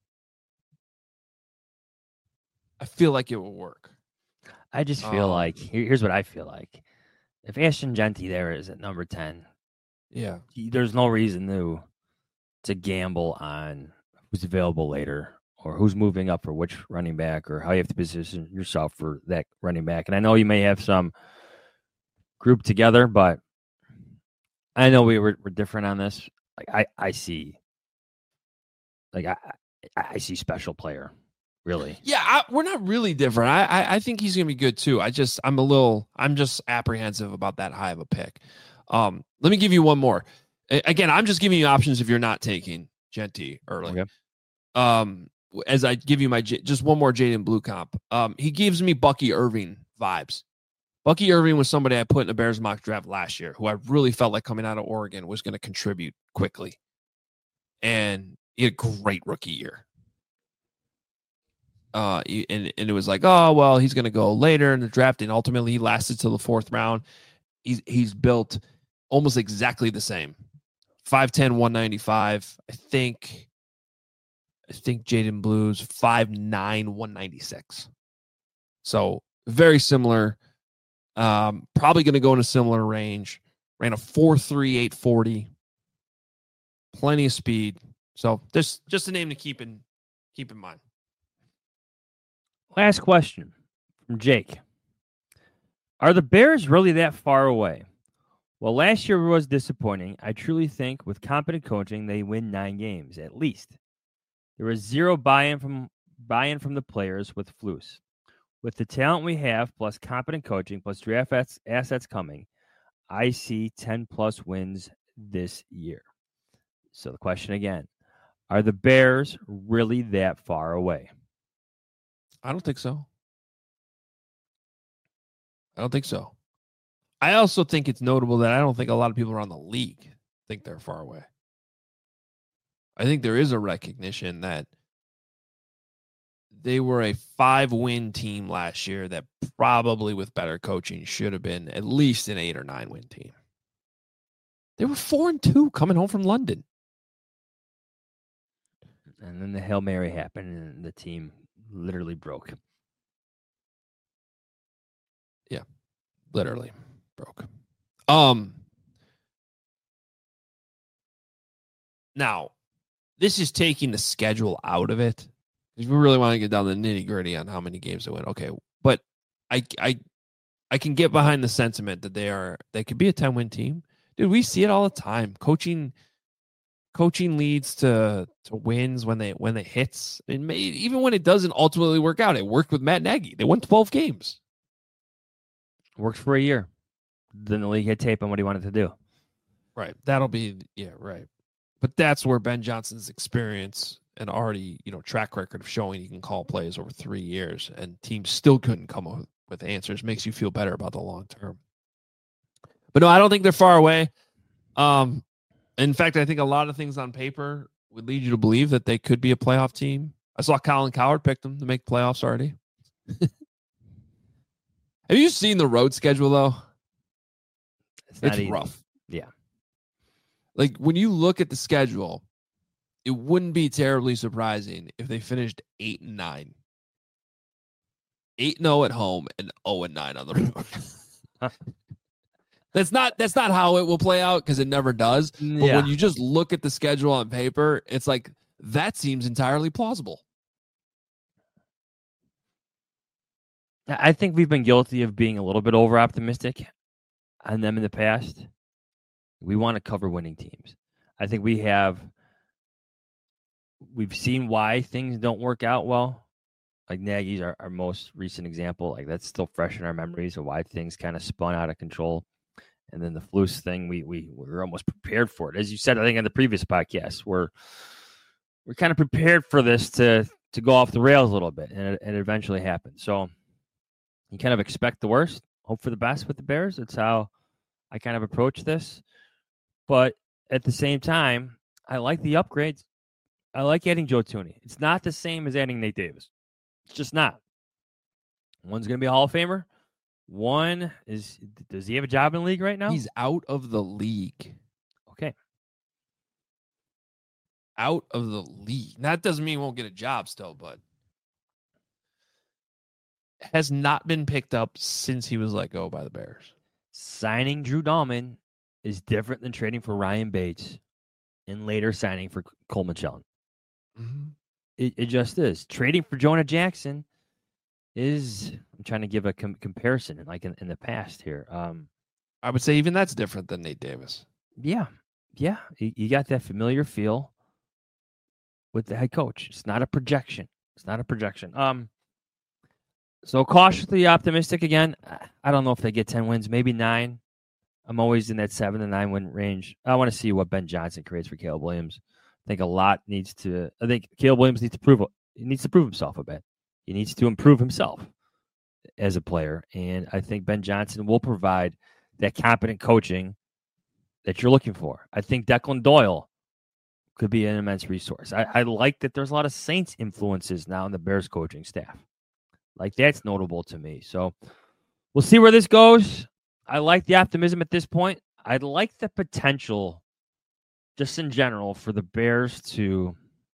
I feel like it will work. I just feel um, like, here, here's what I feel like. If Ashton Jeanty there is at number ten, yeah, there's no reason to, to gamble on who's available later or who's moving up for which running back or how you have to position yourself for that running back. And I know you may have some group together, but I know we were, we're different on this. Like I, I see, like I, I see special player, really. Yeah, I, we're not really different. I, I, I think he's gonna be good too. I just, I'm a little, I'm just apprehensive about that high of a pick. Um, let me give you one more. A- again, I'm just giving you options if you're not taking Jeanty early. Okay. Um, as I give you my J- just one more Jaden Blue comp. Um, he gives me Bucky Irving vibes. Bucky Irving was somebody I put in a Bears mock draft last year, who I really felt like coming out of Oregon was going to contribute quickly, and he had a great rookie year. Uh, and, and it was like, oh, well, he's going to go later in the draft. And ultimately he lasted till the fourth round. He's, he's built almost exactly the same. five ten, one ninety-five. I think, I think Jaden Blue's five nine, one ninety-six. So very similar. Um, probably going to go in a similar range. Ran a four three, eight forty. Plenty of speed. So just, just a name to keep in, keep in mind. Last question from Jake. Are the Bears really that far away? Well, last year was disappointing. I truly think with competent coaching, they win nine games, at least. There was zero buy-in from buy-in from the players with Flus. With the talent we have, plus competent coaching, plus draft assets coming, I see ten-plus wins this year. So the question again, are the Bears really that far away? I don't think so. I don't think so. I also think it's notable that I don't think a lot of people around the league think they're far away. I think there is a recognition that they were a five-win team last year that probably with better coaching should have been at least an eight or nine-win team. They were four and two coming home from London. And then the Hail Mary happened and the team literally broke. Yeah, literally broke. Um, now, this is taking the schedule out of it. If we really want to get down to the nitty gritty on how many games they win, okay. But I, I, I can get behind the sentiment that they are they could be a ten-win team. Dude, we see it all the time. Coaching, coaching leads to to wins when they when it hits. It may, even when it doesn't ultimately work out. It worked with Matt Nagy. They won twelve games. Worked for a year. Then the league had tape on what he wanted to do. Right. That'll be yeah. Right. But that's where Ben Johnson's experience and already, you know, track record of showing he can call plays over three years and teams still couldn't come up with answers makes you feel better about the long term. But no, I don't think they're far away. Um, in fact, I think a lot of things on paper would lead you to believe that they could be a playoff team. I saw Colin Cowherd picked them to make playoffs already. Have you seen the road schedule though? It's, it's rough. Yeah. Like when you look at the schedule, it wouldn't be terribly surprising if they finished eight and nine. Eight and zero at home and zero and nine on the road. That's not that's not how it will play out because it never does. But yeah. when you just look at the schedule on paper, it's like that seems entirely plausible. I think we've been guilty of being a little bit over optimistic on them in the past. We want to cover winning teams. I think we have. We've seen why things don't work out well. Like Nagy's our, our most recent example. Like that's still fresh in our memories of why things kind of spun out of control. And then the Flus thing, we we we're almost prepared for it. As you said, I think in the previous podcast, we're we're kind of prepared for this to to go off the rails a little bit, and it, it eventually happened. So you kind of expect the worst, hope for the best with the Bears. That's how I kind of approach this. But at the same time, I like the upgrades. I like adding Joe Thuney. It's not the same as adding Nate Davis. It's just not. One's going to be a Hall of Famer. One is, does he have a job in the league right now? He's out of the league. Okay. Out of the league. That doesn't mean he won't get a job still, but has not been picked up since he was let go by the Bears. Signing Drew Dahlman is different than trading for Ryan Bates and later signing for Coleman Shelton. Mm-hmm. It, it just is. Trading for Jonah Jackson is, I'm trying to give a com- comparison like in, in the past here. Um, I would say even that's different than Nate Davis. Yeah. Yeah. You, you got that familiar feel with the head coach. It's not a projection. It's not a projection. Um, so cautiously optimistic again. I don't know if they get ten wins, maybe nine. I'm always in that seven to nine win range. I want to see what Ben Johnson creates for Caleb Williams. I think a lot needs to, I think Caleb Williams needs to prove, he needs to prove himself a bit. He needs to improve himself as a player. And I think Ben Johnson will provide that competent coaching that you're looking for. I think Declan Doyle could be an immense resource. I, I like that there's a lot of Saints influences now in the Bears coaching staff. Like, that's notable to me. So we'll see where this goes. I like the optimism at this point. I like the potential, just in general, for the Bears to,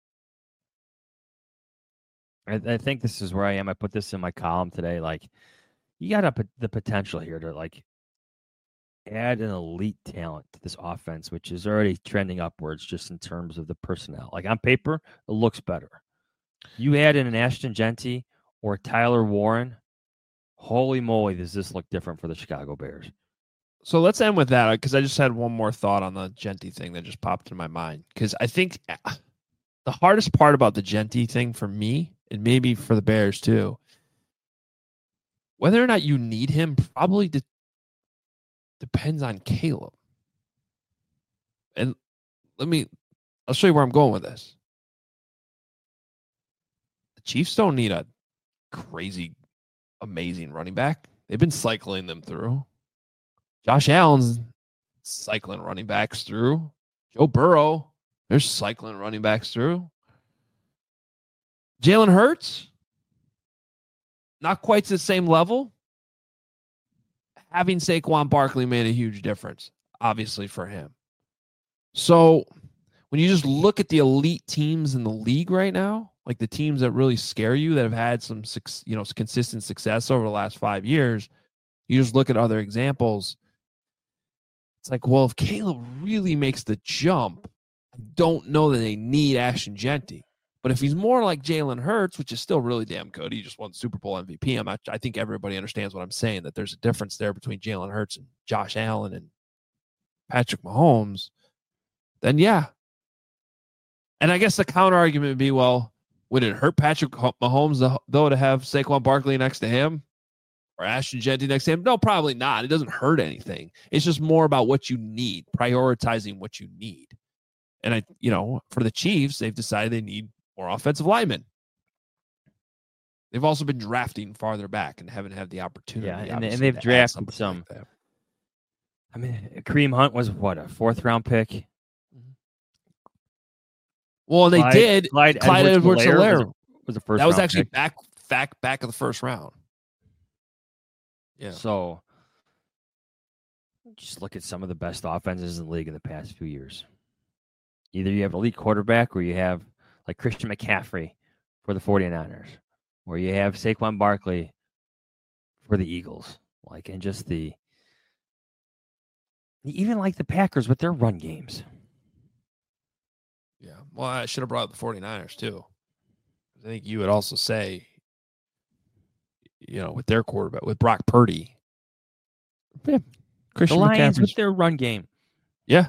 I, I think this is where I am. I put this in my column today. Like, you got a, the potential here to, like, add an elite talent to this offense, which is already trending upwards just in terms of the personnel. Like, on paper, it looks better. You add in an Ashton Jeanty or Tyler Warren, holy moly, does this look different for the Chicago Bears. So let's end with that, because I just had one more thought on the Jeanty thing that just popped in my mind. Because I think the hardest part about the Jeanty thing for me, and maybe for the Bears too, whether or not you need him probably de- depends on Caleb. And let me, I'll show you where I'm going with this. The Chiefs don't need a crazy, amazing running back. They've been cycling them through. Josh Allen's cycling running backs through. Joe Burrow, they're cycling running backs through. Jalen Hurts, not quite to the same level. Having Saquon Barkley made a huge difference, obviously, for him. So when you just look at the elite teams in the league right now, like the teams that really scare you, that have had some, you know, consistent success over the last five years, you just look at other examples. It's like, well, if Caleb really makes the jump, I don't know that they need Ashton Jeanty. But if he's more like Jalen Hurts, which is still really damn good, he just won Super Bowl M V P. I'm not, I think everybody understands what I'm saying, that there's a difference there between Jalen Hurts and Josh Allen and Patrick Mahomes. Then, yeah. And I guess the counter argument would be, well, would it hurt Patrick Mahomes, though, to have Saquon Barkley next to him? Or Ashton Jeanty next to him? No, probably not. It doesn't hurt anything. It's just more about what you need, prioritizing what you need. And, I, you know, for the Chiefs, they've decided they need more offensive linemen. They've also been drafting farther back and haven't had the opportunity. Yeah, and, and they've drafted some. Like I mean, Kareem Hunt was, what, a fourth-round pick? Well, and they Clyde, did. Clyde, Clyde Edwards-Helaire was the first. That was actually pick. back, back, back of the first round. Yeah. So just look at some of the best offenses in the league in the past few years. Either you have an elite quarterback or you have like Christian McCaffrey for the 49ers, or you have Saquon Barkley for the Eagles. Like, and just the, even like the Packers with their run games. Yeah. Well, I should have brought up the 49ers too. I think you would also say, you know, with their quarterback, with Brock Purdy. Yeah. Christian the Lions with their run game. Yeah.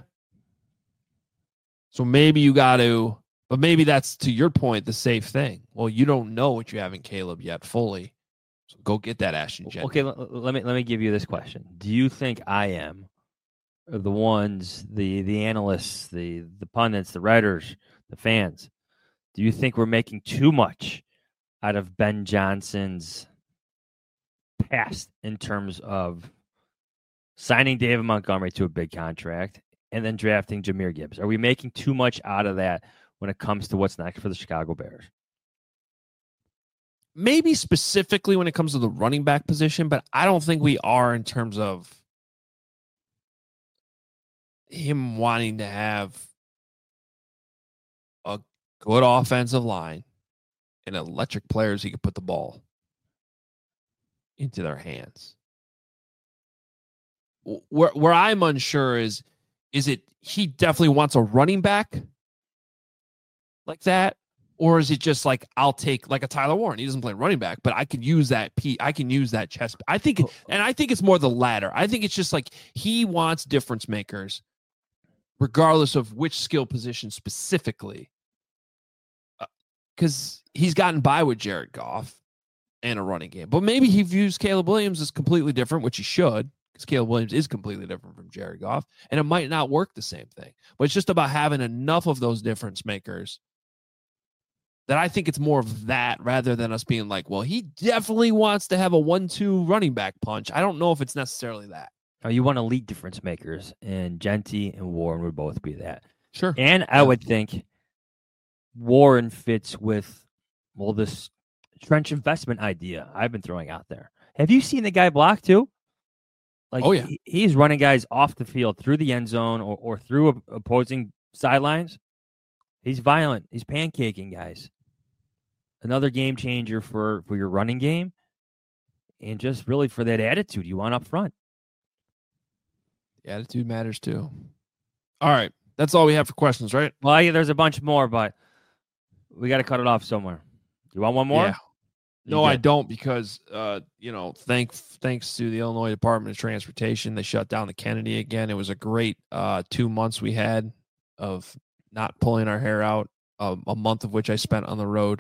So maybe you got to, but maybe that's, to your point, the safe thing. Well, you don't know what you have in Caleb yet fully. So go get that Ashton Jeanty. Okay, let, let me let me give you this question. Do you think I am the ones, the the analysts, the the pundits, the writers, the fans, Do you think we're making too much out of Ben Johnson's past in terms of signing David Montgomery to a big contract and then drafting Jahmyr Gibbs? Are we making too much out of that when it comes to what's next for the Chicago Bears? Maybe specifically when it comes to the running back position, but I don't think we are in terms of him wanting to have a good offensive line and electric players he could put the ball into their hands. Where where I'm unsure is, is it he definitely wants a running back like that, or is it just like I'll take like a Tyler Warren? He doesn't play running back, but I can use that P. I can use that chest. I think, and I think it's more the latter. I think it's just like he wants difference makers, regardless of which skill position specifically, because uh, he's gotten by with Jared Goff and a running game. But maybe he views Caleb Williams as completely different, which he should, because Caleb Williams is completely different from Jared Goff, and it might not work the same thing. But it's just about having enough of those difference makers that I think it's more of that rather than us being like, well, he definitely wants to have a one two running back punch. I don't know if it's necessarily that. Oh, you want elite difference makers, and Genty and Warren would both be that. Sure. And I would think Warren fits with, well, this trench investment idea I've been throwing out there. Have you seen the guy block too? Like, oh, yeah. He, he's running guys off the field through the end zone or, or through opposing sidelines. He's violent. He's pancaking guys. Another game changer for, for your running game and just really for that attitude you want up front. The attitude matters too. All right. That's all we have for questions, right? Well, yeah, there's a bunch more, but we got to cut it off somewhere. You want one more? Yeah. No, I don't, because, uh, you know, thank, thanks to the Illinois Department of Transportation, they shut down the Kennedy again. It was a great uh, two months we had of not pulling our hair out, uh, a month of which I spent on the road.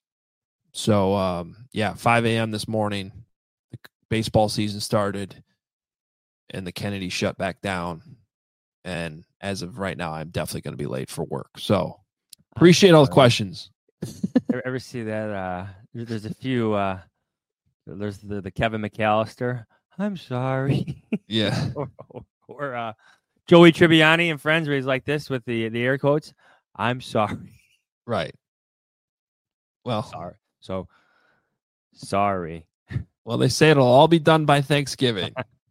So, um, yeah, five a.m. this morning, the baseball season started, and the Kennedy shut back down. And as of right now, I'm definitely going to be late for work. So, appreciate all the questions. ever, ever see that? Uh, there's a few. Uh, there's the, the Kevin McAllister. I'm sorry. Yeah. or or uh, Joey Tribbiani and Friends, where he's like this with the, the air quotes. I'm sorry. Right. Well, sorry. So, sorry. Well, they say it'll all be done by Thanksgiving.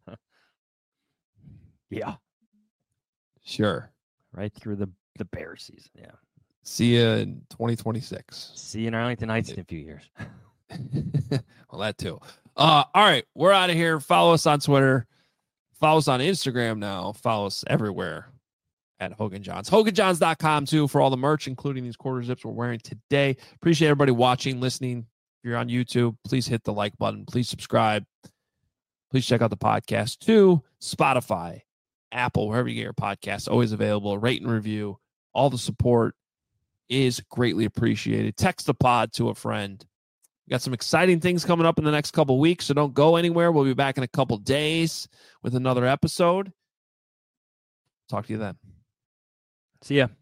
Yeah. Sure. Right through the, the bear season. Yeah. See you in twenty twenty-six. See you in Arlington Heights in a few years. Well, that too. Uh, all right. We're out of here. Follow us on Twitter. Follow us on Instagram now. Follow us everywhere at Hogan Johns. Hogan Johns dot com too for all the merch, including these quarter zips we're wearing today. Appreciate everybody watching, listening. If you're on YouTube, please hit the like button. Please subscribe. Please check out the podcast too. Spotify, Apple, wherever you get your podcasts, always available. Rate and review. All the support is greatly appreciated. Text the pod to a friend. We got some exciting things coming up in the next couple weeks, so don't go anywhere. We'll be back in a couple days with another episode. Talk to you then. See ya.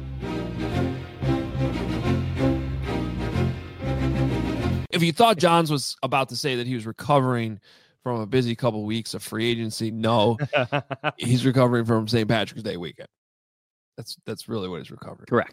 If you thought Johns was about to say that he was recovering from a busy couple weeks of free agency, no, he's recovering from Saint Patrick's Day weekend. That's that's really what he's recovering. Correct.